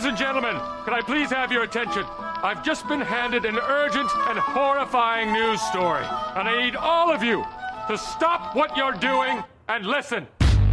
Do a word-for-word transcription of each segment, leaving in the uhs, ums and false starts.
and gentlemen, can I please have your attention? I've just been handed an urgent and horrifying news story, and I need all of you to stop what you're doing and listen.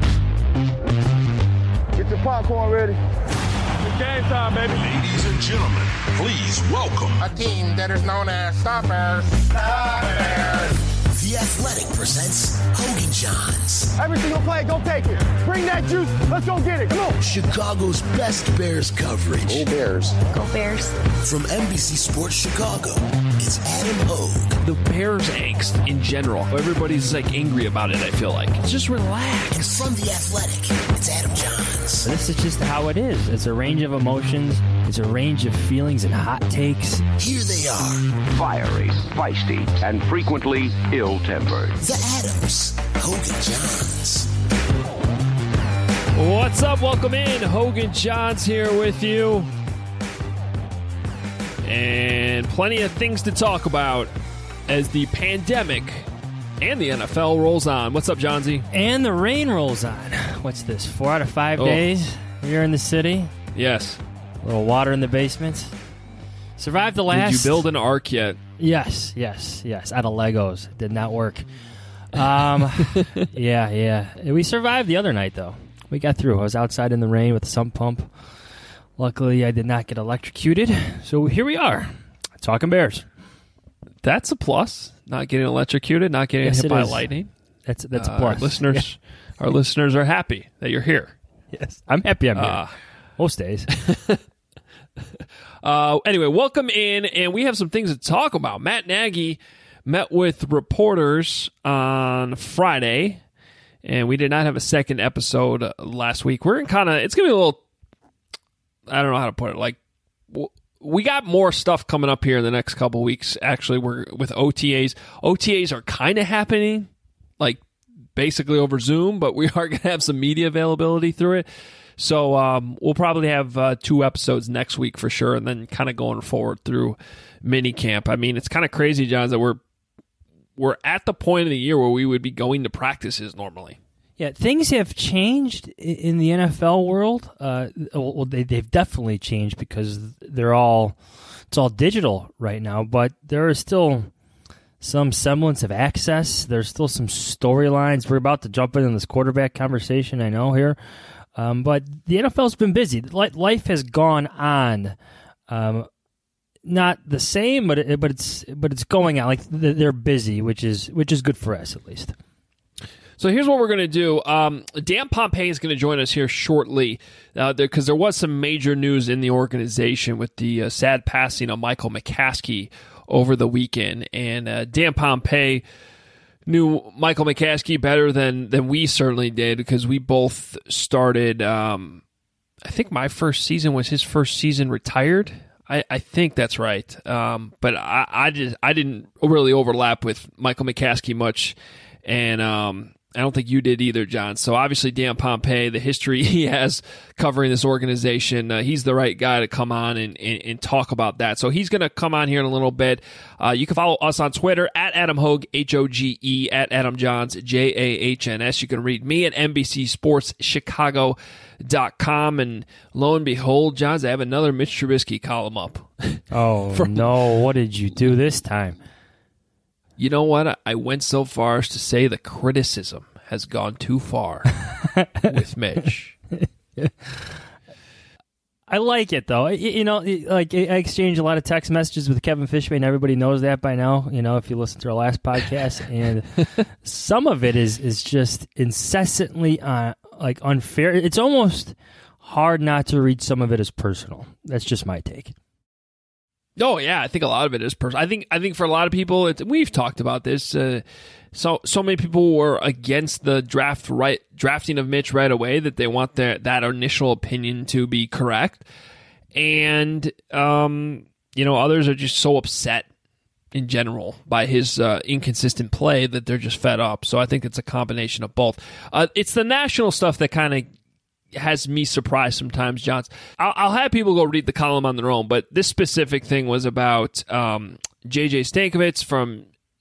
Get your popcorn ready. It's game time, baby. Ladies and gentlemen, please welcome A team that is known as Stoppers. Stoppers. The Athletic presents Hogan Johns. Every single play, go take it. Bring that juice. Let's go get it. Come on. Chicago's best Bears coverage. Go Bears. Go Bears. From N B C Sports Chicago, it's Adam Hogue. The Bears angst in general. Everybody's like angry about it, I feel like. Just relax. And from The Athletic, it's Adam Johns. This is just how it is. It's a range of emotions. It's a range of feelings and hot takes. Here they are. Fiery, feisty, and frequently ill-tempered. The Adams. Hogan Johns. What's up? Welcome in. Hogan Johns here with you. And plenty of things to talk about as the pandemic and the N F L rolls on. What's up, Johnsy? And the rain rolls on. What's this, four out of five Oh. days here in the city? Yes. A little water in the basement. Survived the last... Did you build an ark yet? Yes, yes, yes. Out of Legos. Did not work. Um, yeah, yeah. We survived the other night, though. We got through. I was outside in the rain with a sump pump. Luckily, I did not get electrocuted. So here we are, talking Bears. That's a plus. Not getting electrocuted, not getting Yes, hit it by is. lightning. That's that's a Uh, plus. Our listeners, our listeners are happy that you're here. Yes, I'm happy I'm here. Uh, Most days. Uh, anyway, welcome in, and we have some things to talk about. Matt Nagy met with reporters on Friday, and we did not have a second episode uh, last week. We're in kind of, it's going to be a little, I don't know how to put it, like, w- we got more stuff coming up here in the next couple weeks. Actually, we're with O T As. O T As are kind of happening, like, basically over Zoom, but we are going to have some media availability through it. So um, we'll probably have uh, two episodes next week for sure, and then kind of going forward through minicamp. I mean, it's kind of crazy, John, that we're we're at the point of the year where we would be going to practices normally. Yeah, things have changed i- in the N F L world. Uh, well, they, they've definitely changed because they're all it's all digital right now. But there is still some semblance of access. There's still some storylines. We're about to jump into this quarterback conversation, I know here. Um, but the N F L's been busy. Li- Life has gone on. Um, not the same, but it, but it's but it's going on. Like th- they're busy, which is which is good for us at least. So here's what we're going to do. Um, Dan Pompei is going to join us here shortly because uh, there, 'cause there was some major news in the organization with the uh, sad passing of Michael McCaskey over the weekend. And uh, Dan Pompei knew Michael McCaskey better than than we certainly did because we both started, um, I think my first season was his first season retired. I, I think that's right. Um, but I, I, just, I didn't really overlap with Michael McCaskey much. And um, I don't think you did either, John. So obviously Dan Pompei, the history he has covering this organization, uh, he's the right guy to come on and, and, and talk about that. So he's going to come on here in a little bit. Uh, you can follow us on Twitter at Adam Hogue, H O G E, at Adam Johns, J A H N S. You can read me at N B C Sports Chicago dot com. And lo and behold, Johns, I have another Mitch Trubisky column up. Oh, From- no. What did you do this time? You know what? I went so far as to say the criticism has gone too far with Mitch. I like it, though. You, you know, like I exchange a lot of text messages with Kevin Fishman. Everybody knows that by now, you know, if you listen to our last podcast. And some of it is, is just incessantly uh, like unfair. It's almost hard not to read some of it as personal. That's just my take. Oh yeah, I think a lot of it is personal. I think I think for a lot of people, it's, we've talked about this. Uh, so so many people were against the draft right drafting of Mitch right away that they want their that initial opinion to be correct, and um, you know others are just so upset in general by his uh, inconsistent play that they're just fed up. So I think it's a combination of both. Uh, it's the national stuff that kind of has me surprised sometimes, Johns. I'll, I'll have people go read the column on their own, but this specific thing was about um, J J Stankovitz from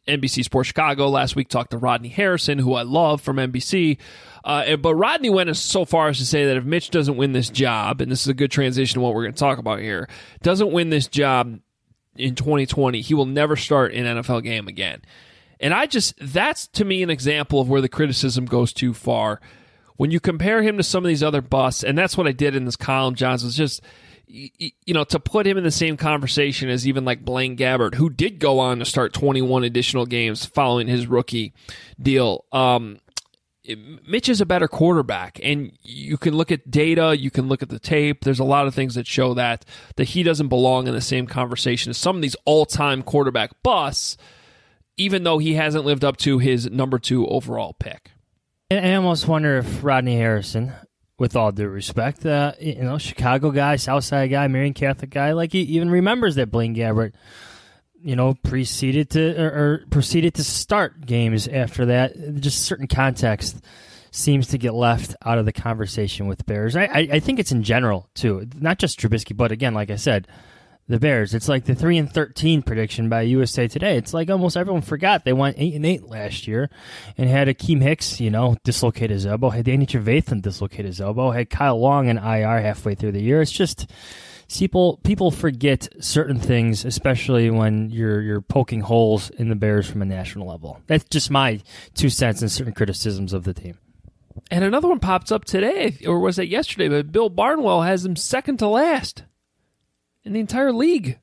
N B C Sports Chicago last week talked to Rodney Harrison, who I love from N B C. Uh, but Rodney went as so far as to say that if Mitch doesn't win this job, and this is a good transition to what we're going to talk about here, doesn't win this job in twenty twenty, he will never start an N F L game again. And I just, that's to me an example of where the criticism goes too far. When you compare him to some of these other busts, and that's what I did in this column, Johns, was just, you know, to put him in the same conversation as even like Blaine Gabbert, who did go on to start twenty-one additional games following his rookie deal. Um, Mitch is a better quarterback, and you can look at data, you can look at the tape. There's a lot of things that show that, that he doesn't belong in the same conversation as some of these all-time quarterback busts, even though he hasn't lived up to his number two overall pick. And I almost wonder if Rodney Harrison, with all due respect, uh, you know, Chicago guy, Southside guy, Marian Catholic guy, like he even remembers that Blaine Gabbert, you know, preceded to or, or proceeded to start games after that. Just certain context seems to get left out of the conversation with Bears. I, I, I think it's in general too, not just Trubisky, but again, like I said, the Bears. It's like the three and thirteen prediction by U S A Today. It's like almost everyone forgot they went eight and eight last year, and had Akeem Hicks, you know, dislocate his elbow. Had Danny Trevathan dislocate his elbow. Had Kyle Long in I R halfway through the year. It's just people people forget certain things, especially when you're you're poking holes in the Bears from a national level. That's just my two cents and certain criticisms of the team. And another one pops up today, or was it yesterday? But Bill Barnwell has him second to last in the entire league.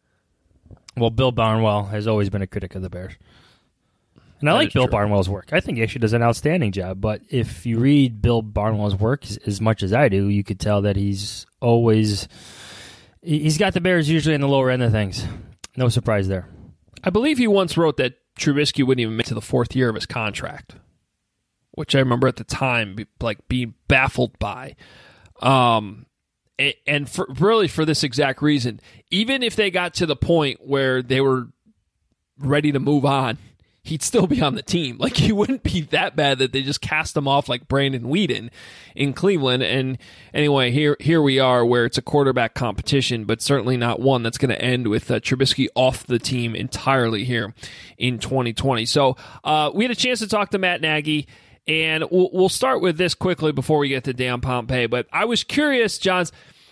Well, Bill Barnwell has always been a critic of the Bears. And I That like is Bill true. Barnwell's work. I think he actually does an outstanding job. But if you read Bill Barnwell's work as, as much as I do, you could tell that he's always... He's got the Bears usually in the lower end of things. No surprise there. I believe he once wrote that Trubisky wouldn't even make it to the fourth year of his contract, which I remember at the time be, like being baffled by. Um... And for, really for this exact reason, even if they got to the point where they were ready to move on, he'd still be on the team. Like, he wouldn't be that bad that they just cast him off like Brandon Weeden in Cleveland. And anyway, here here we are where it's a quarterback competition, but certainly not one that's going to end with uh, Trubisky off the team entirely here in twenty twenty. So uh, we had a chance to talk to Matt Nagy. And we'll, we'll start with this quickly before we get to Dan Pompei. But I was curious, Johns,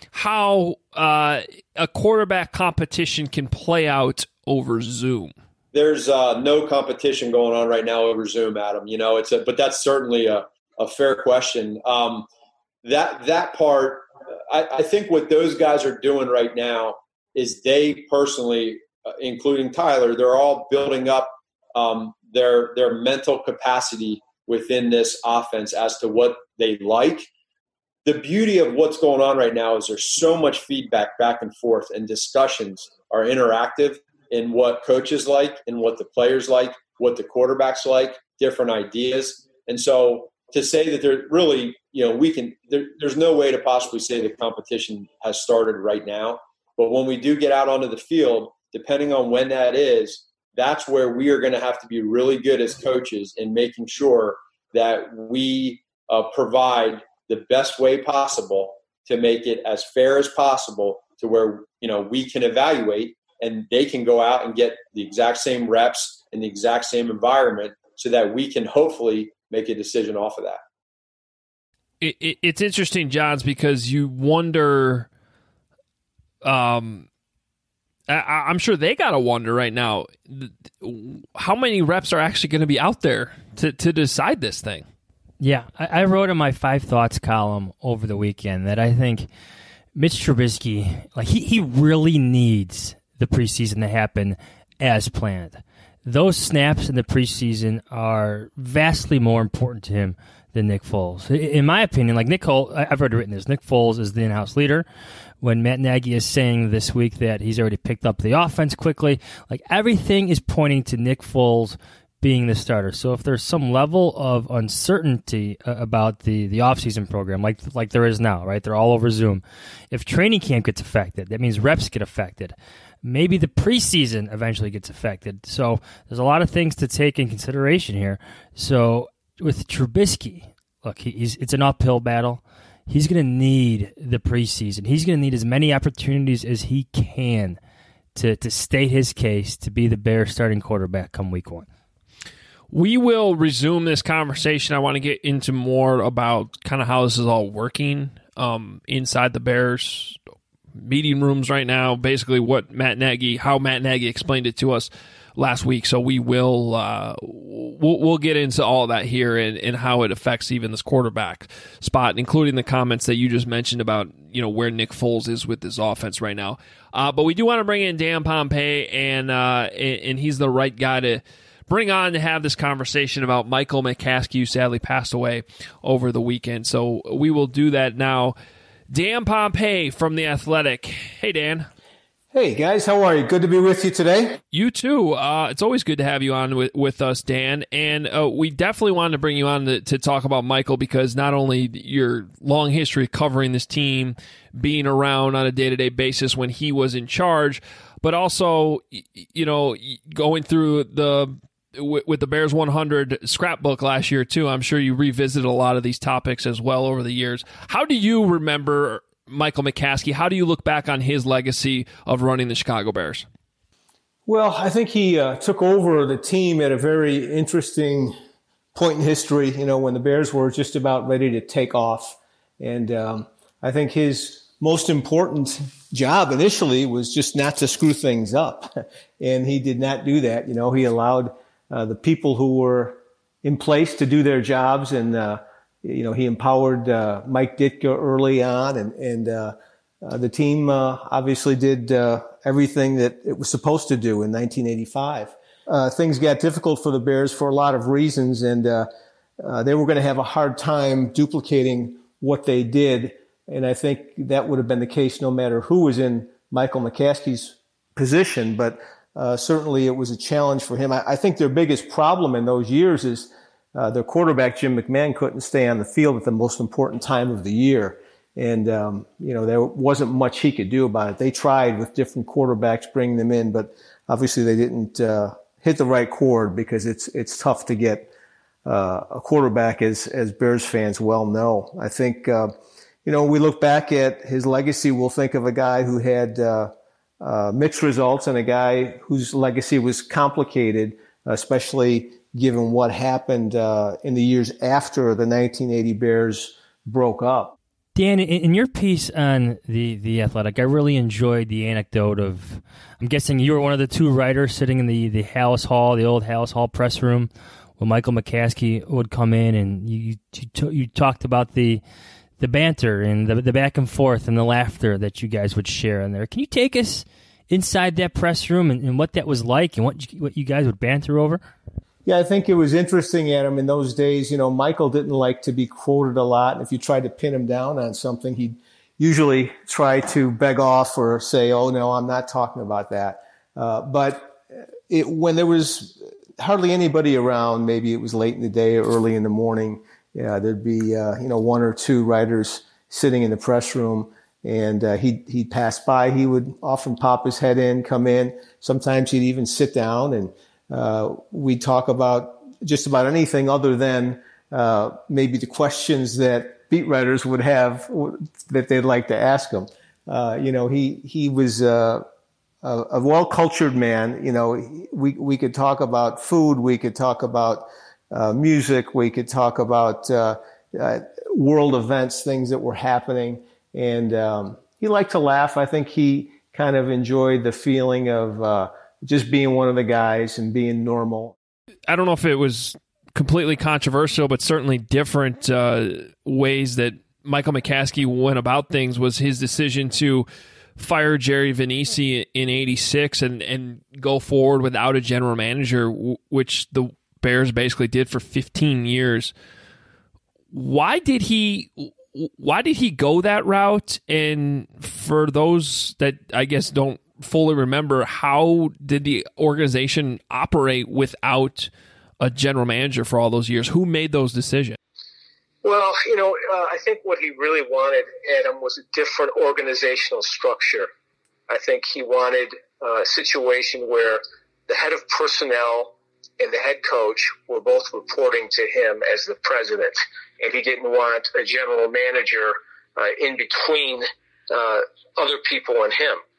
how uh, a quarterback competition can play out over Zoom. There's uh, no competition going on right now over Zoom, Adam. You know, it's a, but that's certainly a, a fair question. Um, that that part, I, I think what those guys are doing right now is they personally, uh, including Tyler, they're all building up um, their their mental capacity within this offense as to what they like. The beauty of what's going on right now is there's so much feedback back and forth, and discussions are interactive in what coaches like and what the players like, what the quarterbacks like, different ideas. And so to say that there really, you know, we can, there, there's no way to possibly say the competition has started right now. But when we do get out onto the field, depending on when that is, that's where we are going to have to be really good as coaches in making sure that we uh, provide the best way possible to make it as fair as possible to where, you know, we can evaluate and they can go out and get the exact same reps in the exact same environment so that we can hopefully make a decision off of that. It, it, it's interesting, Johns, because you wonder um, – I, I'm sure they got to wonder right now how many reps are actually going to be out there to, to decide this thing. Yeah, I, I wrote in my Five Thoughts column over the weekend that I think Mitch Trubisky, like he, he really needs the preseason to happen as planned. Those snaps in the preseason are vastly more important to him than Nick Foles. In my opinion, like Nick Foles, I've already written this, Nick Foles is the in-house leader. When Matt Nagy is saying this week that he's already picked up the offense quickly, like everything is pointing to Nick Foles being the starter. So if there's some level of uncertainty about the, the offseason program, like like there is now, right? They're all over Zoom. If training camp gets affected, that means reps get affected. Maybe the preseason eventually gets affected. So there's a lot of things to take in consideration here. So with Trubisky, look, he's it's an uphill battle. He's going to need the preseason. He's going to need as many opportunities as he can to, to state his case to be the Bears starting quarterback come week one? We will resume this conversation. I want to get into more about kind of how this is all working um, inside the Bears meeting rooms right now. Basically, what Matt Nagy, how Matt Nagy explained it to us last week. So we will uh, we'll, we'll get into all of that here and, and how it affects even this quarterback spot, including the comments that you just mentioned about, you know, where Nick Foles is with this offense right now. Uh, but we do want to bring in Dan Pompei, and uh, and, and he's the right guy to bring on to have this conversation about Michael McCaskey, who sadly passed away over the weekend. So we will do that now. Dan Pompei from The Athletic. Hey, Dan. Hey, guys. How are you? Good to be with you today. You too. Uh, it's always good to have you on with, with us, Dan. And uh, we definitely wanted to bring you on to, to talk about Michael, because not only your long history covering this team, being around on a day-to-day basis when he was in charge, but also, you know, going through the with the Bears one hundred scrapbook last year, too. I'm sure you revisited a lot of these topics as well over the years. How do you remember Michael McCaskey? How do you look back on his legacy of running the Chicago Bears? Well, I think he uh, took over the team at a very interesting point in history, you know, when the Bears were just about ready to take off. And um, I think his most important job initially was just not to screw things up. And he did not do that. You know, he allowed Uh, the people who were in place to do their jobs, and uh, you know, he empowered uh, Mike Ditka early on, and and uh, uh, the team uh, obviously did uh, everything that it was supposed to do in nineteen eighty-five. Uh, things got difficult for the Bears for a lot of reasons, and uh, uh, they were going to have a hard time duplicating what they did. And I think that would have been the case no matter who was in Michael McCaskey's position, but Uh, certainly it was a challenge for him. I, I think their biggest problem in those years is uh, their quarterback, Jim McMahon, couldn't stay on the field at the most important time of the year. And, um, you know, there wasn't much he could do about it. They tried with different quarterbacks, bringing them in, but obviously they didn't uh, hit the right chord, because it's it's tough to get uh, a quarterback, as, as Bears fans well know. I think, uh, you know, when we look back at his legacy, we'll think of a guy who had uh, Uh, mixed results, and a guy whose legacy was complicated, especially given what happened uh, in the years after the nineteen eighty Bears broke up. Dan, in your piece on the, the Athletic, I really enjoyed the anecdote of, I'm guessing you were one of the two writers sitting in the, the Halas Hall, the old Halas Hall press room, when Michael McCaskey would come in, and you you, you talked about the the banter and the, the back and forth and the laughter that you guys would share in there. Can you take us inside that press room and, and what that was like, and what you, what you guys would banter over? Yeah, I think it was interesting, Adam, in those days. You know, Michael didn't like to be quoted a lot. And if you tried to pin him down on something, he'd usually try to beg off or say, oh, no, I'm not talking about that. Uh, but it, when there was hardly anybody around, maybe it was late in the day or early in the morning, yeah, there'd be, uh, you know, one or two writers sitting in the press room, and uh, he'd, he'd pass by. He would often pop his head in, come in. Sometimes he'd even sit down, and uh, we'd talk about just about anything other than uh, maybe the questions that beat writers would have that they'd like to ask him. Uh, you know, he, he was uh, a, a well-cultured man. You know, we, we could talk about food. We could talk about Uh, music, we could talk about uh, uh, world events, things that were happening. And um, he liked to laugh. I think he kind of enjoyed the feeling of uh, just being one of the guys and being normal. I don't know if it was completely controversial, but certainly different uh, ways that Michael McCaskey went about things was his decision to fire Jerry Vanisi in eighty-six and, and go forward without a general manager, which the Bears basically did for fifteen years. Why did he why did he go that route? And for those that I guess don't fully remember, how did the organization operate without a general manager for all those years? Who made those decisions? Well, you know, uh, I think what he really wanted, Adam, was a different organizational structure. I think he wanted uh, a situation where the head of personnel and the head coach were both reporting to him as the president, and he didn't want a general manager uh, in between uh, other people and him.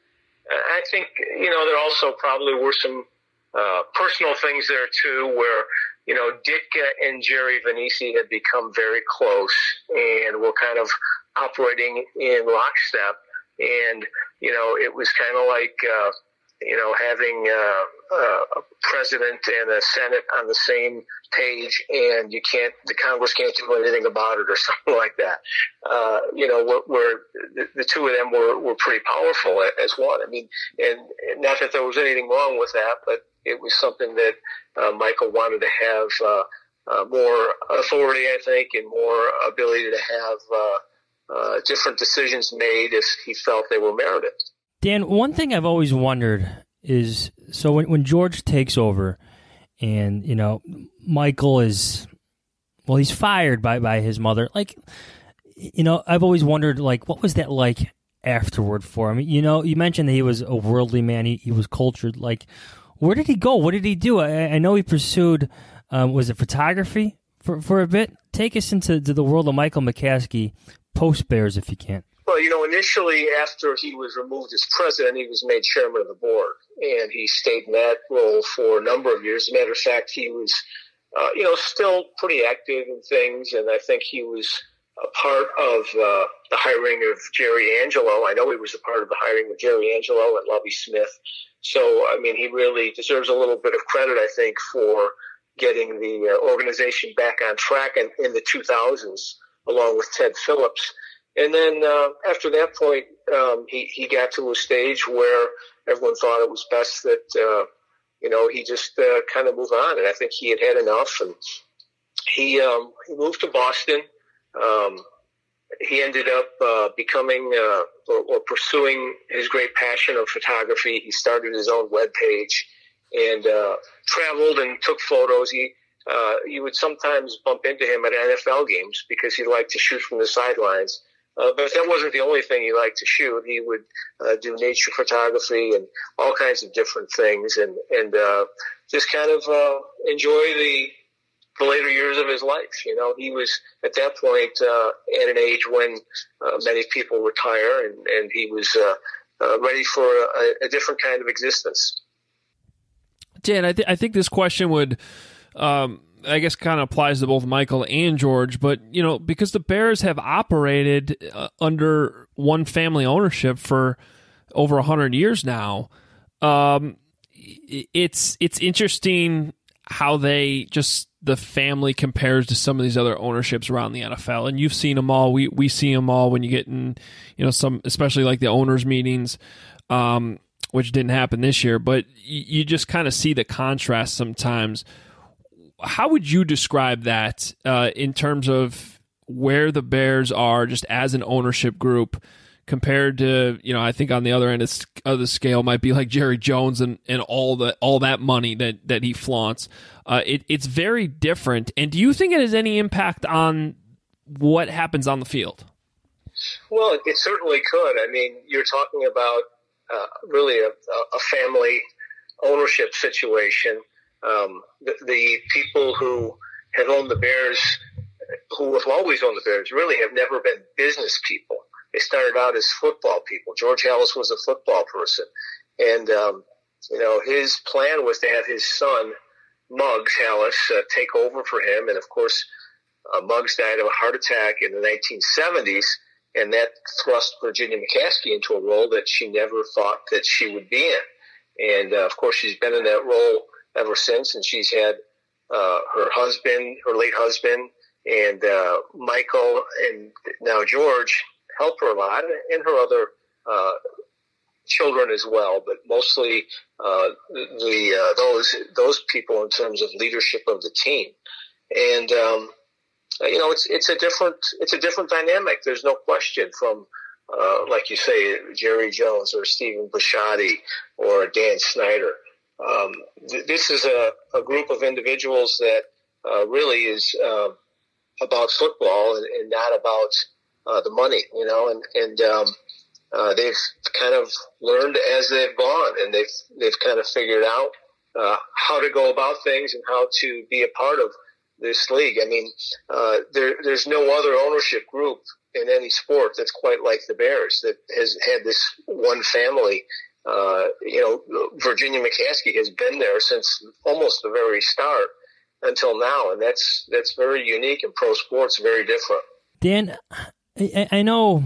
I think, you know, there also probably were some uh, personal things there too, where, you know, Ditka and Jerry Vanisi had become very close and were kind of operating in lockstep. And, you know, it was kind of like, uh, you know, having uh, uh, a president and a Senate on the same page, and you can't, the Congress can't do anything about it or something like that. Uh, you know, where, where the, the two of them were, were pretty powerful as one. I mean, and, and not that there was anything wrong with that, but it was something that uh, Michael wanted to have uh, uh, more authority, I think, and more ability to have uh, uh, different decisions made if he felt they were merited. Dan, one thing I've always wondered is, so when, when George takes over and, you know, Michael is, well, he's fired by, by his mother. Like, you know, I've always wondered, like, what was that like afterward for him? You know, you mentioned that he was a worldly man. He, he was cultured. Like, where did he go? What did he do? I, I know he pursued, um, was it photography for, for a bit? Take us into to the world of Michael McCaskey, post-Bears, if you can. Well, you know, initially after he was removed as president, he was made chairman of the board, and he stayed in that role for a number of years. As a matter of fact, he was, uh, you know, still pretty active in things, and I think he was a part of uh, the hiring of Jerry Angelo. I know he was a part of the hiring of Jerry Angelo and Lovie Smith. So, I mean, he really deserves a little bit of credit, I think, for getting the uh, organization back on track in, in the two thousands, along with Ted Phillips. And then uh, after that point, um, he, he got to a stage where everyone thought it was best that, uh, you know, he just uh, kind of move on. And I think he had had enough. And he um, he moved to Boston. Um, he ended up uh, becoming uh, or, or pursuing his great passion of photography. He started his own webpage and uh, traveled and took photos. He uh, you would sometimes bump into him at N F L games because he liked to shoot from the sidelines. Uh, but that wasn't the only thing he liked to shoot. He would uh, do nature photography and all kinds of different things, and and uh, just kind of uh, enjoy the the later years of his life. You know, he was at that point uh, at an age when uh, many people retire, and, and he was uh, uh, ready for a, a different kind of existence. Dan, I, th- I think this question would. Um I guess kind of applies to both Michael and George, but, you know, because the Bears have operated uh, under one family ownership for over a hundred years now, um, it's it's interesting how they just, the family compares to some of these other ownerships around the N F L. And you've seen them all. We we see them all when you get in, you know, some, especially like the owners' meetings, um, which didn't happen this year, but you, you just kind of see the contrast sometimes. How would you describe that uh, in terms of where the Bears are just as an ownership group compared to, you know, I think on the other end of the scale might be like Jerry Jones and, and all the all that money that, that he flaunts. Uh, it, it's very different. And do you think it has any impact on what happens on the field? Well, it certainly could. I mean, you're talking about uh, really a, a family ownership situation. Um, the, the people who have owned the Bears, who have always owned the Bears, really have never been business people. They started out as football people. George Halas was a football person. And, um, you know, his plan was to have his son, Muggs Halas, uh, take over for him. And, of course, uh, Muggs died of a heart attack in the nineteen seventies, and that thrust Virginia McCaskey into a role that she never thought that she would be in. And, uh, of course, she's been in that role ever since, and she's had uh, her husband, her late husband, and uh, Michael, and now George help her a lot, and her other uh, children as well. But mostly uh, the uh, those those people in terms of leadership of the team, and um, you know, it's it's a different it's a different dynamic. There's no question from. Uh, like you say, Jerry Jones or Stephen Bisciotti or Dan Snyder. Um, th- this is a, a group of individuals that uh, really is uh, about football and, and not about uh, the money, you know, and, and um, uh, they've kind of learned as they've gone, and they've they've kind of figured out uh, how to go about things and how to be a part of this league. I mean, uh, there, there's no other ownership group in any sport that's quite like the Bears, that has had this one family uh, you know, Virginia McCaskey has been there since almost the very start until now, and that's that's very unique in pro sports, very different. Dan, I, I know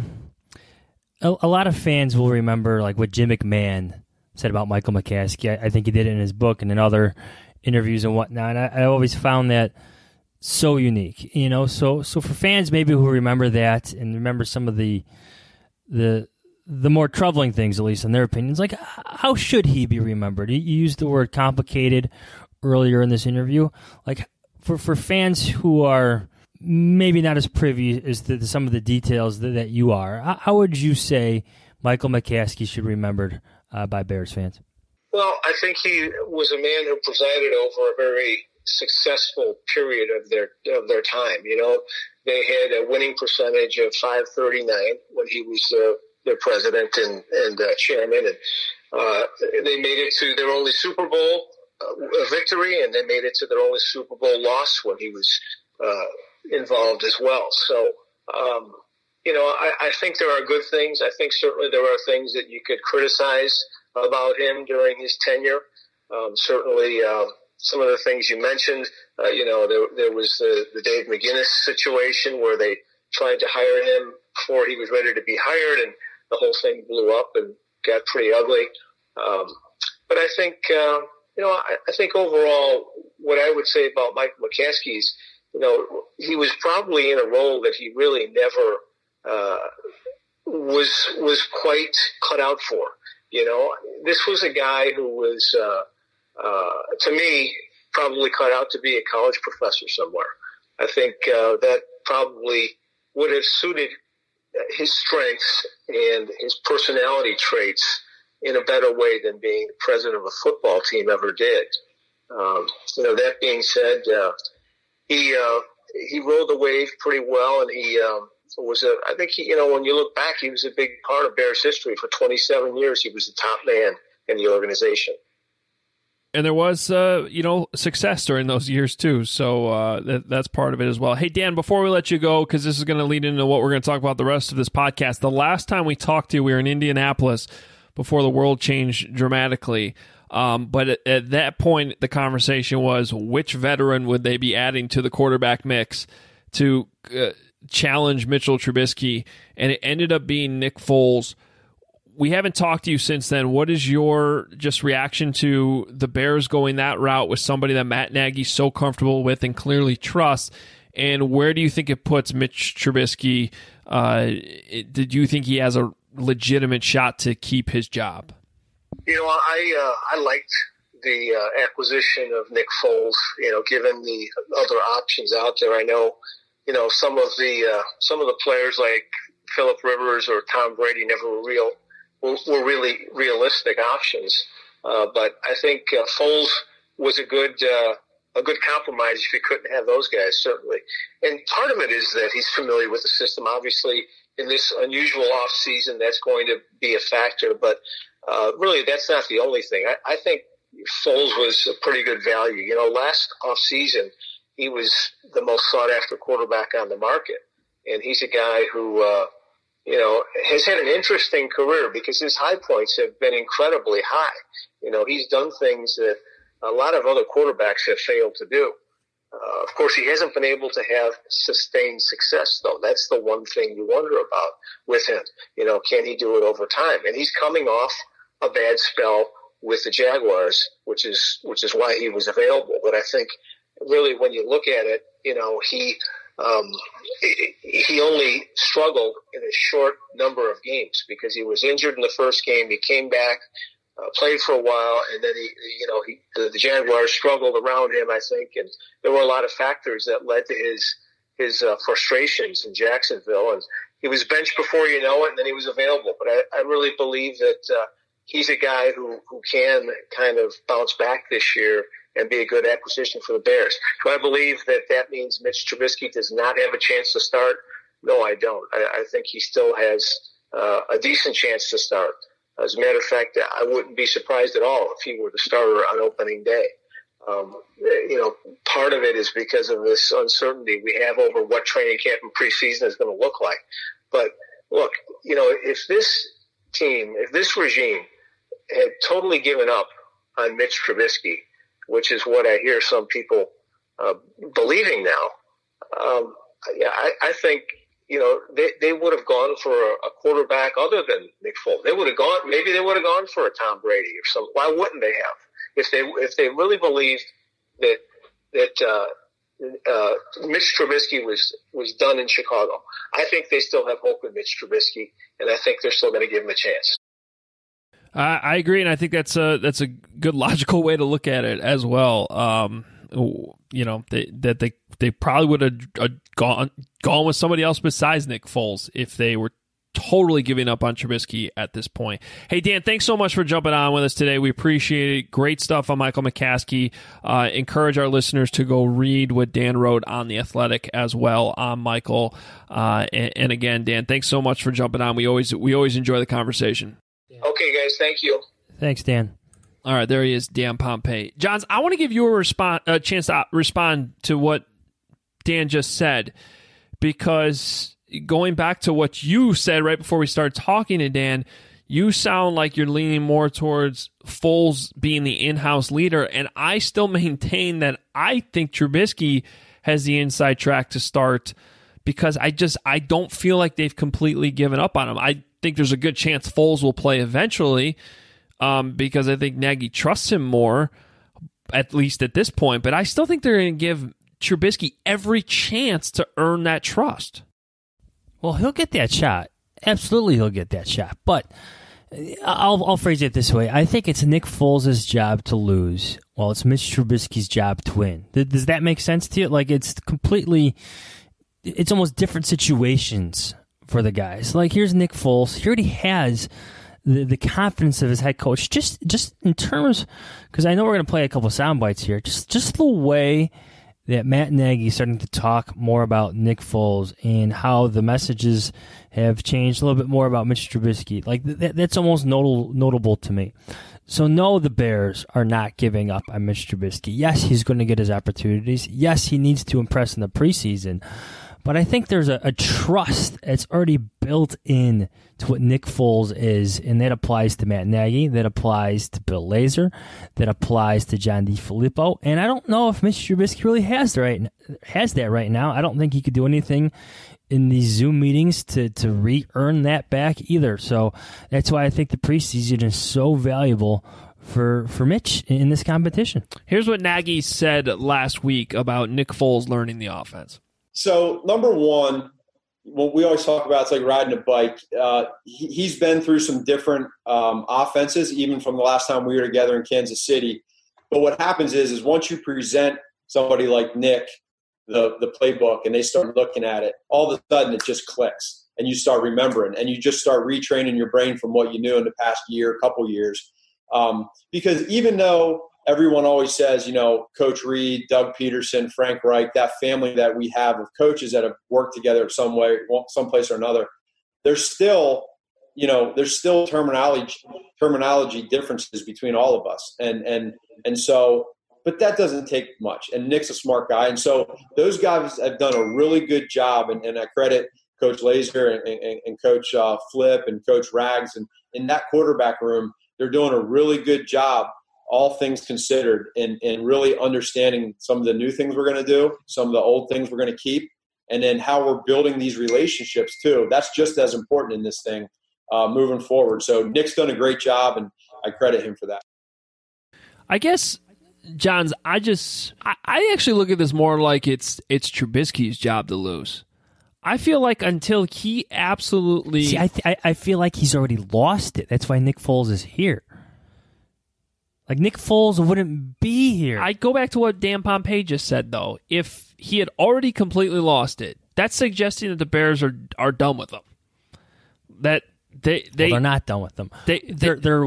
a, a lot of fans will remember like what Jim McMahon said about Michael McCaskey. I, I think he did it in his book and in other interviews and whatnot. And I, I always found that so unique, you know. So, so for fans maybe who remember that and remember some of the the the more troubling things, at least in their opinions, like how should he be remembered? You used the word complicated earlier in this interview. Like for for fans who are maybe not as privy as to some of the details that, that you are, how would you say Michael McCaskey should be remembered uh, by Bears fans? Well, I think he was a man who presided over a very successful period of their of their time. You know, they had a winning percentage of five thirty-nine when he was uh, their president and and uh, chairman, and uh, they made it to their only Super Bowl uh, victory, and they made it to their only Super Bowl loss when he was uh, involved as well. So, um, you know, I, I think there are good things. I think certainly there are things that you could criticize about him during his tenure. Um, certainly, uh, some of the things you mentioned, uh, you know, there, there was the, the Dave McGinnis situation where they tried to hire him before he was ready to be hired, and the whole thing blew up and got pretty ugly. Um, but I think, uh, you know, I, I think overall, what I would say about Michael McCaskey is, you know, he was probably in a role that he really never uh, was was quite cut out for. You know, this was a guy who was, uh, uh, to me, probably cut out to be a college professor somewhere. I think uh, that probably would have suited his strengths and his personality traits in a better way than being the president of a football team ever did. Um, you know, that being said, uh, he uh, he rode the wave pretty well, and he um, was a. I think he, you know, when you look back, he was a big part of Bears history for twenty-seven years. He was the top man in the organization. And there was, uh, you know, success during those years, too. So uh, that, that's part of it as well. Hey, Dan, before we let you go, because this is going to lead into what we're going to talk about the rest of this podcast, the last time we talked to you, we were in Indianapolis before the world changed dramatically. Um, but at, at that point, the conversation was which veteran would they be adding to the quarterback mix to uh, challenge Mitchell Trubisky, and it ended up being Nick Foles. We haven't talked to you since then. What is your just reaction to the Bears going that route with somebody that Matt Nagy's so comfortable with and clearly trusts? And where do you think it puts Mitch Trubisky? Uh, it, did you think he has a legitimate shot to keep his job? You know, I uh, I liked the uh, acquisition of Nick Foles. You know, given the other options out there, I know, you know, some of the uh, some of the players like Phillip Rivers or Tom Brady never were real. were really realistic options. Uh, but I think uh, Foles was a good uh, a good compromise if you couldn't have those guys, certainly. And part of it is that he's familiar with the system. Obviously, in this unusual off season, that's going to be a factor. But uh, really, that's not the only thing. I, I think Foles was a pretty good value. You know, last off season, he was the most sought after quarterback on the market. And he's a guy who uh, – you know, has had an interesting career because his high points have been incredibly high. You know, he's done things that a lot of other quarterbacks have failed to do. Uh, of course, he hasn't been able to have sustained success, though. That's the one thing you wonder about with him. You know, can he do it over time? And he's coming off a bad spell with the Jaguars, which is which is why he was available. But I think really when you look at it, you know, he – Um, he only struggled in a short number of games because he was injured in the first game. He came back, uh, played for a while, and then he, you know, he, the, the Jaguars struggled around him, I think, and there were a lot of factors that led to his his uh, frustrations in Jacksonville. And he was benched before you know it, and then he was available. But I, I really believe that uh, he's a guy who who can kind of bounce back this year and be a good acquisition for the Bears. Do I believe that that means Mitch Trubisky does not have a chance to start? No, I don't. I, I think he still has uh, a decent chance to start. As a matter of fact, I wouldn't be surprised at all if he were the starter on opening day. Um, you know, part of it is because of this uncertainty we have over what training camp and preseason is going to look like. But look, you know, if this team, if this regime had totally given up on Mitch Trubisky, which is what I hear some people uh, believing now. Um, yeah, I, I think, you know, they, they would have gone for a, a quarterback other than Nick Foles. They would have gone, maybe they would have gone for a Tom Brady or something. Why wouldn't they have? If they, if they really believed that, that, uh, uh, Mitch Trubisky was, was done in Chicago, I think they still have hope in Mitch Trubisky, and I think they're still going to give him a chance. I, I agree, and I think that's a that's a good logical way to look at it as well. Um, you know, they, that they they probably would have uh, gone gone with somebody else besides Nick Foles if they were totally giving up on Trubisky at this point. Hey, Dan, thanks so much for jumping on with us today. We appreciate it. Great stuff on Michael McCaskey. Uh, encourage our listeners to go read what Dan wrote on The Athletic as well on Michael. Uh, and, and again, Dan, thanks so much for jumping on. We always we always enjoy the conversation. Okay, guys, thank you. Thanks, Dan. All right, there he is, Dan Pompei. Johns, I want to give you a, response, a chance to respond to what Dan just said, because going back to what you said right before we started talking to Dan, you sound like you're leaning more towards Foles being the in-house leader, and I still maintain that I think Trubisky has the inside track to start, because I just I don't feel like they've completely given up on him. I think there's a good chance Foles will play eventually, um, because I think Nagy trusts him more, at least at this point, but I still think they're going to give Trubisky every chance to earn that trust. Well, he'll get that shot. Absolutely, he'll get that shot. But I'll, I'll phrase it this way. I think it's Nick Foles' job to lose, while it's Mitch Trubisky's job to win. Does that make sense to you? Like, it's completely, it's almost different situations for the guys. Like, here's Nick Foles. He already has the, the confidence of his head coach. Just just in terms, because I know we're going to play a couple sound bites here, just, just the way that Matt Nagy is starting to talk more about Nick Foles and how the messages have changed a little bit more about Mitch Trubisky. Like, that, that's almost notable, notable to me. So, no, the Bears are not giving up on Mitch Trubisky. Yes, he's going to get his opportunities. Yes, he needs to impress in the preseason. But I think there's a, a trust that's already built in to what Nick Foles is, and that applies to Matt Nagy, that applies to Bill Lazor, that applies to John DeFilippo. And I don't know if Mitch Trubisky really has the right has that right now. I don't think he could do anything in these Zoom meetings to, to re-earn that back either. So that's why I think the preseason is so valuable for for Mitch in this competition. Here's what Nagy said last week about Nick Foles learning the offense. So, number one, what we always talk about, it's like riding a bike. Uh, he, he's been through some different um, offenses, even from the last time we were together in Kansas City. But what happens is, is once you present somebody like Nick the, the playbook and they start looking at it, all of a sudden it just clicks and you start remembering and you just start retraining your brain from what you knew in the past year, couple years. Um, because even though everyone always says, you know, Coach Reed, Doug Peterson, Frank Reich, that family that we have of coaches that have worked together some way, someplace or another, there's still, you know, there's still terminology terminology differences between all of us. And and and so, but that doesn't take much. And Nick's a smart guy. And so those guys have done a really good job. And, and I credit Coach Lazor and, and, and Coach uh, Flip and Coach Rags. And in that quarterback room, they're doing a really good job, all things considered, and, and really understanding some of the new things we're going to do, some of the old things we're going to keep, and then how we're building these relationships too. That's just as important in this thing uh, moving forward. So Nick's done a great job, and I credit him for that. I guess, Johns, I just I, I actually look at this more like it's it's Trubisky's job to lose. I feel like until he absolutely see, I th- I feel like he's already lost it. That's why Nick Foles is here. Like, Nick Foles wouldn't be here. I go back to what Dan Pompei just said, though. If he had already completely lost it, that's suggesting that the Bears are are done with him. That they they well, they're not done with them. They they're they're.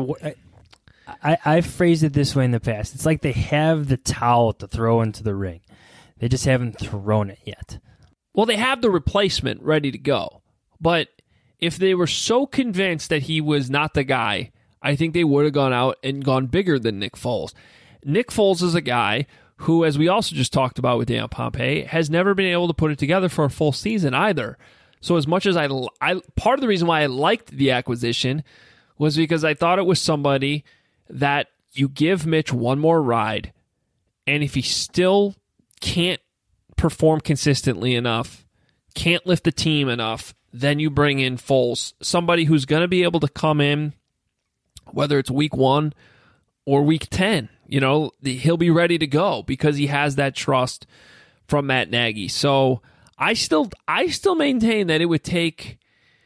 I I've phrased it this way in the past. It's like they have the towel to throw into the ring. They just haven't thrown it yet. Well, they have the replacement ready to go. But if they were so convinced that he was not the guy, I think they would have gone out and gone bigger than Nick Foles. Nick Foles is a guy who, as we also just talked about with Dan Pompei, has never been able to put it together for a full season either. So as much as I, I part of the reason why I liked the acquisition was because I thought it was somebody that you give Mitch one more ride, and if he still can't perform consistently enough, can't lift the team enough, then you bring in Foles, somebody who's going to be able to come in, whether it's week one or week ten. You know, he'll be ready to go because he has that trust from Matt Nagy. So I still, I still maintain that it would take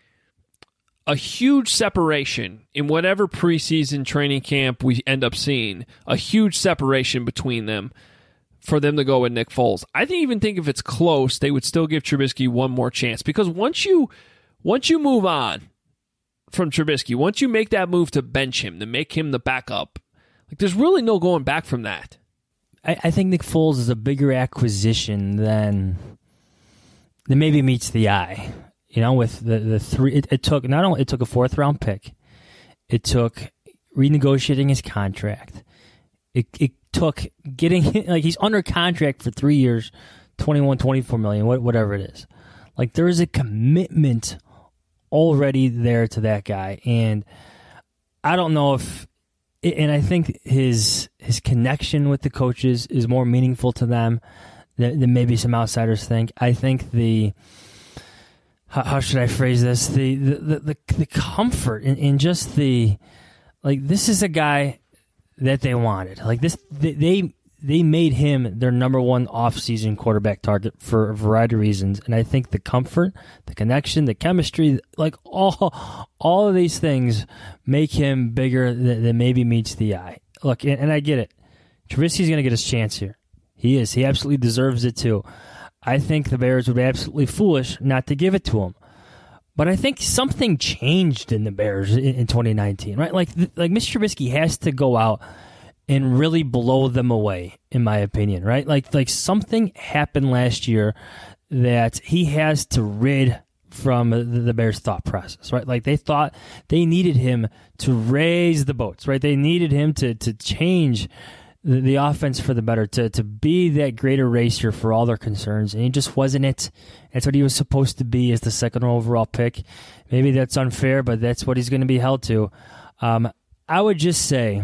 a huge separation in whatever preseason training camp we end up seeing, a huge separation between them for them to go with Nick Foles. I think even think if it's close, they would still give Trubisky one more chance, because once you once you move on from Trubisky, once you make that move to bench him, to make him the backup, like there's really no going back from that. I, I think Nick Foles is a bigger acquisition than than maybe meets the eye. You know, with the, the three, it, it took not only it took a fourth round pick, it took renegotiating his contract. It it took getting, like, he's under contract for three years, twenty-one, twenty-four million, whatever it is. Like, there is a commitment already there to that guy, and I don't know if, and I think his his connection with the coaches is more meaningful to them than, than maybe some outsiders think. I think the How, how should I phrase this? The the the, the comfort in, in just the, like, this is a guy that they wanted. Like this, they they, they made him their number one off-season quarterback target for a variety of reasons. And I think the comfort, the connection, the chemistry, like all all of these things make him bigger than, than maybe meets the eye. Look, and, and I get it. Trubisky's going to get his chance here. He is. He absolutely deserves it too. I think the Bears would be absolutely foolish not to give it to him. But I think something changed in the Bears in, in twenty nineteen, right? Like, like Mister Trubisky has to go out and really blow them away, in my opinion, right? Like, like something happened last year that he has to rid from the, the Bears' thought process, right? Like, they thought they needed him to raise the boats, right? They needed him to to change the, the offense for the better, to to be that great eraser for all their concerns, and he just wasn't it. That's what he was supposed to be as the second overall pick. Maybe that's unfair, but that's what he's going to be held to. Um, I would just say,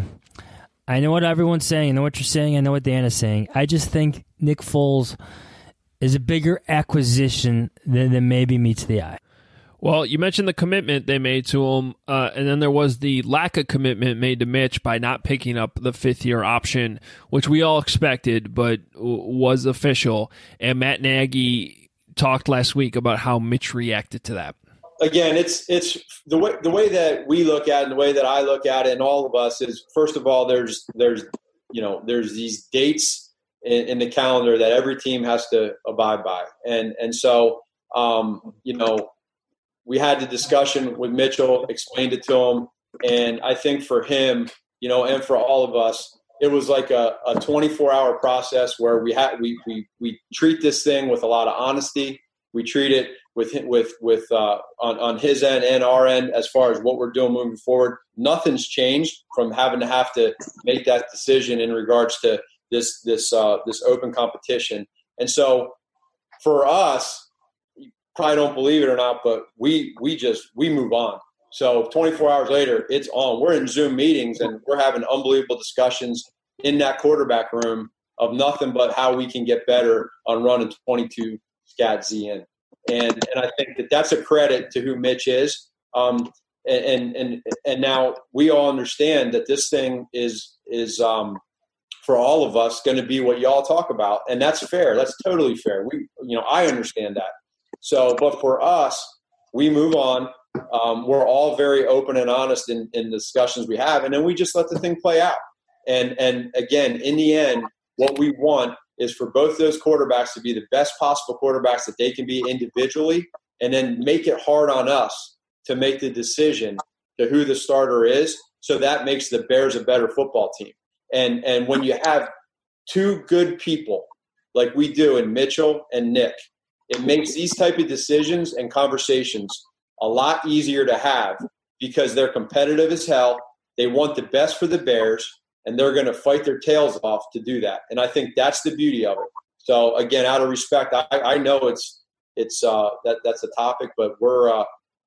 I know what everyone's saying, I know what you're saying, I know what Dan is saying. I just think Nick Foles is a bigger acquisition than, than maybe meets the eye. Well, you mentioned the commitment they made to him, uh, and then there was the lack of commitment made to Mitch by not picking up the fifth-year option, which we all expected but w- was official. And Matt Nagy talked last week about how Mitch reacted to that. Again, it's it's the way the way that we look at it and the way that I look at it, and all of us, is, first of all, there's there's you know there's these dates in, in the calendar that every team has to abide by, and and so um, you know. We had the discussion with Mitchell, explained it to him, and I think for him, you know, and for all of us, it was like a, a twenty-four hour process where we had we we we treat this thing with a lot of honesty. We treat it with with with uh, on on his end and our end as far as what we're doing moving forward. Nothing's changed from having to have to make that decision in regards to this this uh, this open competition, and so for us. Probably don't believe it or not, but we we just we move on. So twenty-four hours later, it's on. We're in Zoom meetings and we're having unbelievable discussions in that quarterback room of nothing but how we can get better on running twenty-two scat Z in. And and I think that that's a credit to who Mitch is. Um, and and and now we all understand that this thing is is um, for all of us going to be what y'all talk about, and that's fair. That's totally fair. We you know I understand that. So, but for us, we move on. Um, we're all very open and honest in, in the discussions we have, and then we just let the thing play out. And and again, in the end, what we want is for both those quarterbacks to be the best possible quarterbacks that they can be individually, and then make it hard on us to make the decision to who the starter is. So that makes the Bears a better football team. And and when you have two good people like we do in Mitchell and Nick, it makes these type of decisions and conversations a lot easier to have because they're competitive as hell. They want the best for the Bears, and they're going to fight their tails off to do that. And I think that's the beauty of it. So again, out of respect, I, I know it's it's uh, that that's a topic, but we're uh,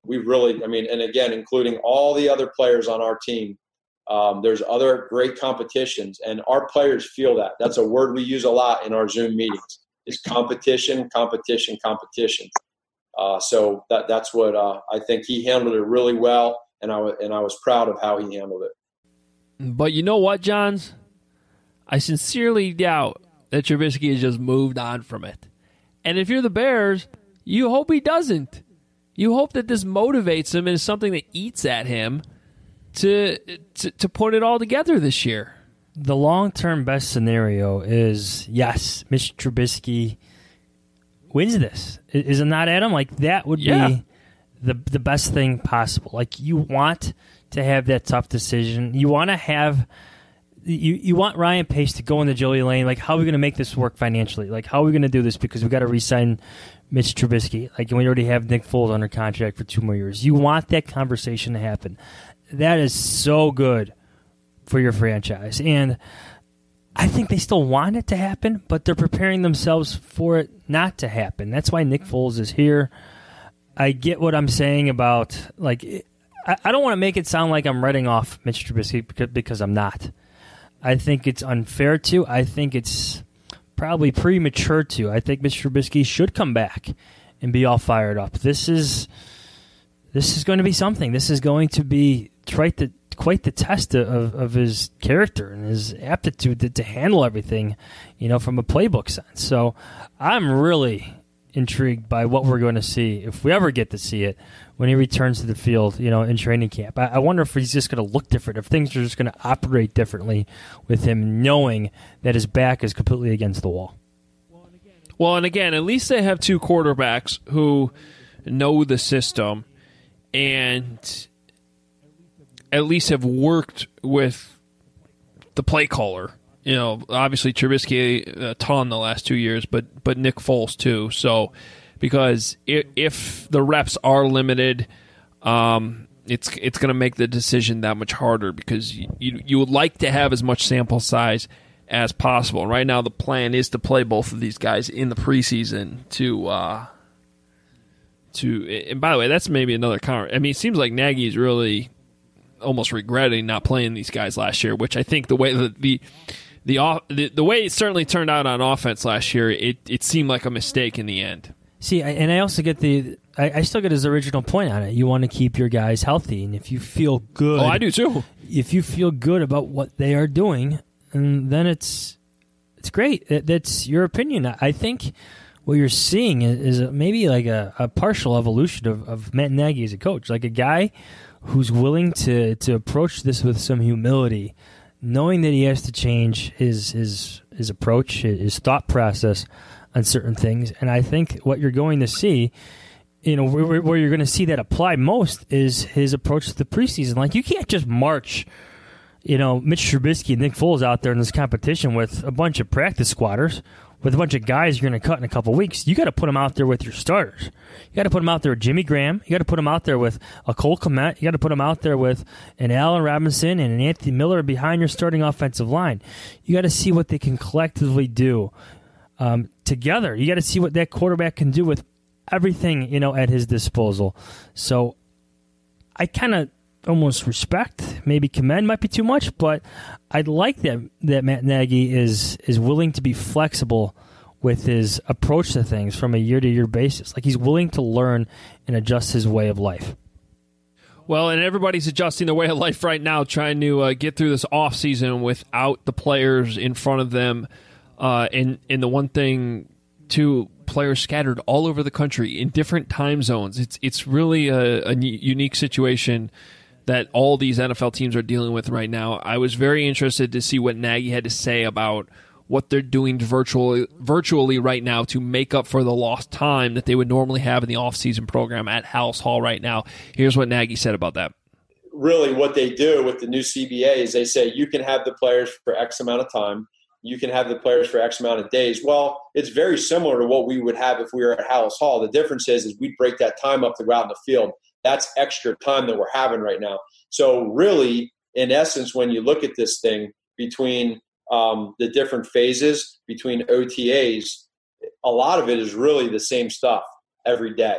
we really, I mean, and again, including all the other players on our team, um, there's other great competitions, and our players feel that. That's a word we use a lot in our Zoom meetings, is competition, competition, competition. Uh, so that that's what uh, I think he handled it really well, and I, w- and I was proud of how he handled it. But you know what, Johns? I sincerely doubt that Trubisky has just moved on from it. And if you're the Bears, you hope he doesn't. You hope that this motivates him and is something that eats at him to, to to put it all together this year. The long-term best scenario is, yes, Mitch Trubisky wins this. Is it not, Adam? Like, that would yeah. be the the best thing possible. Like, you want to have that tough decision. You want to have you you want Ryan Pace to go into Joey Lane. Like, how are we going to make this work financially? Like, how are we going to do this? Because we got to re-sign Mitch Trubisky. Like, we already have Nick Foles under contract for two more years. You want that conversation to happen. That is so good for your franchise. And I think they still want it to happen, but they're preparing themselves for it not to happen. That's why Nick Foles is here. I get what I'm saying about, like, I, I don't want to make it sound like I'm writing off Mitch Trubisky because, because I'm not. I think it's unfair to. I think it's probably premature to. I think Mitch Trubisky should come back and be all fired up. This is this is going to be something. This is going to be quite the quite the test of, of his character and his aptitude to, to handle everything, you know, from a playbook sense. So I'm really intrigued by what we're going to see, if we ever get to see it, when he returns to the field, you know, in training camp. I, I wonder if he's just going to look different, if things are just going to operate differently with him, knowing that his back is completely against the wall. Well, and again, at least they have two quarterbacks who know the system and at least have worked with the play caller. You know, obviously Trubisky a ton the last two years, but but Nick Foles too. So, because if, if the reps are limited, um, it's it's going to make the decision that much harder because you, you you would like to have as much sample size as possible. Right now, the plan is to play both of these guys in the preseason to uh, to. And by the way, that's maybe another comment. I mean, it seems like Nagy's really almost regretting not playing these guys last year, which I think the way that the The, the the way it certainly turned out on offense last year, it, it seemed like a mistake in the end. See, and I also get the, I, I still get his original point on it. You want to keep your guys healthy, and if you feel good. Oh, I do too. If you feel good about what they are doing, and then it's it's great. That, that's your opinion. I think what you're seeing is, is maybe like a, a partial evolution of, of Matt Nagy as a coach, like a guy who's willing to, to approach this with some humility, knowing that he has to change his his his approach, his thought process on certain things. And I think what you're going to see, you know, where, where you're going to see that apply most is his approach to the preseason. Like, you can't just march, you know, Mitch Trubisky and Nick Foles out there in this competition with a bunch of practice squatters, with a bunch of guys you're going to cut in a couple weeks. You got to put them out there with your starters. You got to put them out there with Jimmy Graham. You got to put them out there with a Cole Kmet. You got to put them out there with an Allen Robinson and an Anthony Miller behind your starting offensive line. You got to see what they can collectively do um, together. You got to see what that quarterback can do with everything, you know, at his disposal. So I kind of almost respect, maybe commend might be too much, but I'd like that that Matt Nagy is is willing to be flexible with his approach to things from a year-to-year basis. Like, he's willing to learn and adjust his way of life. Well, and everybody's adjusting their way of life right now, trying to uh, get through this offseason without the players in front of them. Uh, and, and the one thing, too, players scattered all over the country in different time zones. It's, it's really a, a unique situation that all these N F L teams are dealing with right now. I was very interested to see what Nagy had to say about what they're doing virtually virtually right now to make up for the lost time that they would normally have in the offseason program at Halas Hall right now. Here's what Nagy said about that. Really what they do with the new C B A is they say you can have the players for X amount of time. You can have the players for X amount of days. Well, it's very similar to what we would have if we were at Halas Hall. The difference is, is we'd break that time up to go out in the field. That's extra time that we're having right now. So really, in essence, when you look at this thing between um, the different phases, between O T As, a lot of it is really the same stuff every day.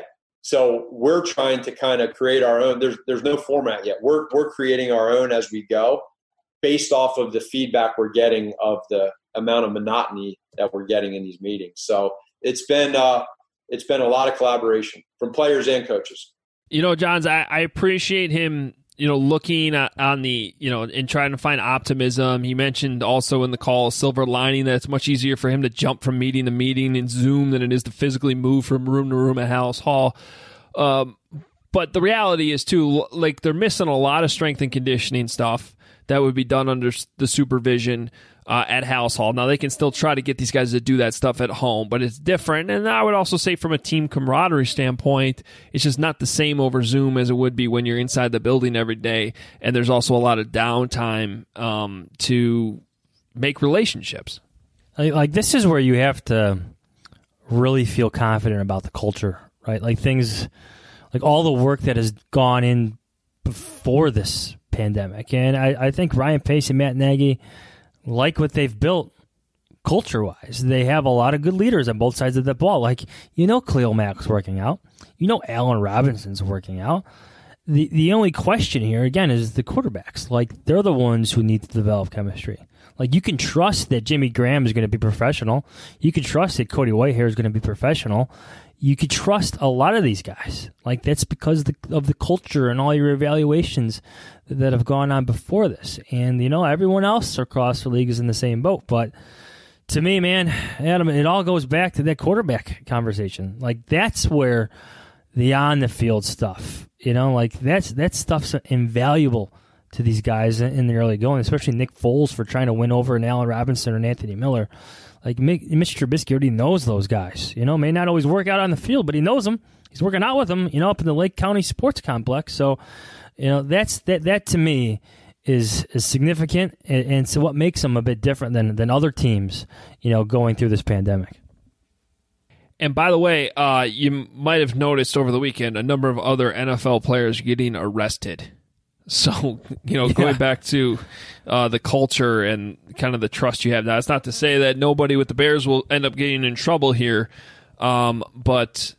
So we're trying to kind of create our own. There's there's no format yet. We're we're creating our own as we go, based off of the feedback we're getting of the amount of monotony that we're getting in these meetings. So it's been uh, it's been a lot of collaboration from players and coaches. You know, Johns, I, I appreciate him, you know, looking at, on the, you know, and trying to find optimism. He mentioned also in the call, silver lining, that it's much easier for him to jump from meeting to meeting in Zoom than it is to physically move from room to room at Halas Hall. Um, but the reality is, too, like, they're missing a lot of strength and conditioning stuff that would be done under the supervision uh, at Halas Hall. Now, they can still try to get these guys to do that stuff at home, but it's different. And I would also say from a team camaraderie standpoint, it's just not the same over Zoom as it would be when you're inside the building every day. And there's also a lot of downtime um, to make relationships. Like, this is where you have to really feel confident about the culture, right? Like, things, like all the work that has gone in before this pandemic. And I, I think Ryan Pace and Matt Nagy like what they've built culture-wise. They have a lot of good leaders on both sides of the ball. Like, you know, Khalil Mack's working out. You know, Allen Robinson's working out. The the only question here, again, is the quarterbacks. Like, they're the ones who need to develop chemistry. Like, you can trust that Jimmy Graham is going to be professional. You can trust that Cody Whitehair is going to be professional. You could trust a lot of these guys. Like, that's because the, of the culture and all your evaluations that have gone on before this. And, you know, everyone else across the league is in the same boat. But to me, man, Adam, it all goes back to that quarterback conversation. Like, that's where the on-the-field stuff, you know, like, that's that stuff's invaluable to these guys in the early going, especially Nick Foles for trying to win over an Allen Robinson or an Anthony Miller. Like, Mister Trubisky already knows those guys. You know, may not always work out on the field, but he knows them. He's working out with them, you know, up in the Lake County Sports Complex. So, you know, that's that. That to me is is significant, and, and so what makes them a bit different than than other teams, you know, going through this pandemic. And by the way, uh, you might have noticed over the weekend a number of other N F L players getting arrested. So, you know, going yeah. back to uh, the culture and kind of the trust you have now, it's not to say that nobody with the Bears will end up getting in trouble here, um, but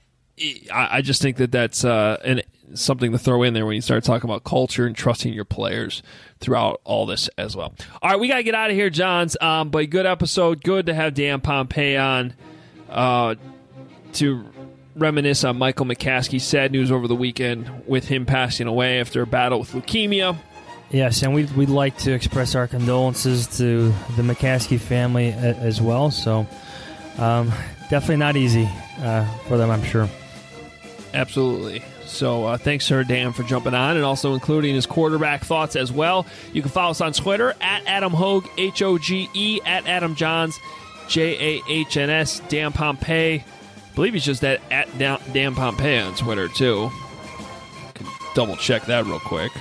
I, I just think that that's uh, an, something to throw in there when you start talking about culture and trusting your players throughout all this as well. All right, we got to get out of here, Johns, um, but good episode. Good to have Dan Pompei on uh, to reminisce on Michael McCaskey. Sad news over the weekend with him passing away after a battle with leukemia. Yes, and we'd, we'd like to express our condolences to the McCaskey family a, as well. So um, definitely not easy uh, for them, I'm sure. Absolutely. So uh, thanks, Sir Dan, for jumping on and also including his quarterback thoughts as well. You can follow us on Twitter at Adam Hoge, H O G E, at Adam Johns, J A H N S, Dan Pompei. I believe he's just at, at Dan Pompei on Twitter, too. Could double check that real quick.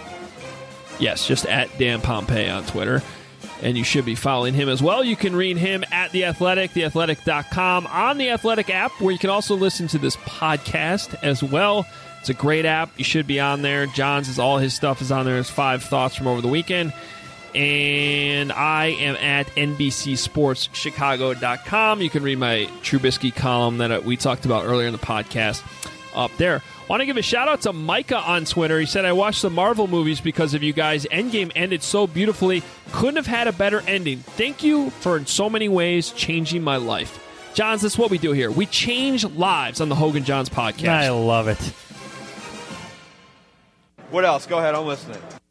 Yes, just at Dan Pompei on Twitter. And you should be following him as well. You can read him at The Athletic, the athletic dot com, on the Athletic app, where you can also listen to this podcast as well. It's a great app. You should be on there. John's is all his stuff is on there. His five thoughts from over the weekend. And I am at N B C Sports Chicago dot com. You can read my Trubisky column that we talked about earlier in the podcast up there. Want to give a shout-out to Micah on Twitter. He said, I watched the Marvel movies because of you guys. Endgame ended so beautifully. Couldn't have had a better ending. Thank you for, in so many ways, changing my life. Johns, that's what we do here. We change lives on the Hoge and Johns podcast. I love it. What else? Go ahead. I'm listening.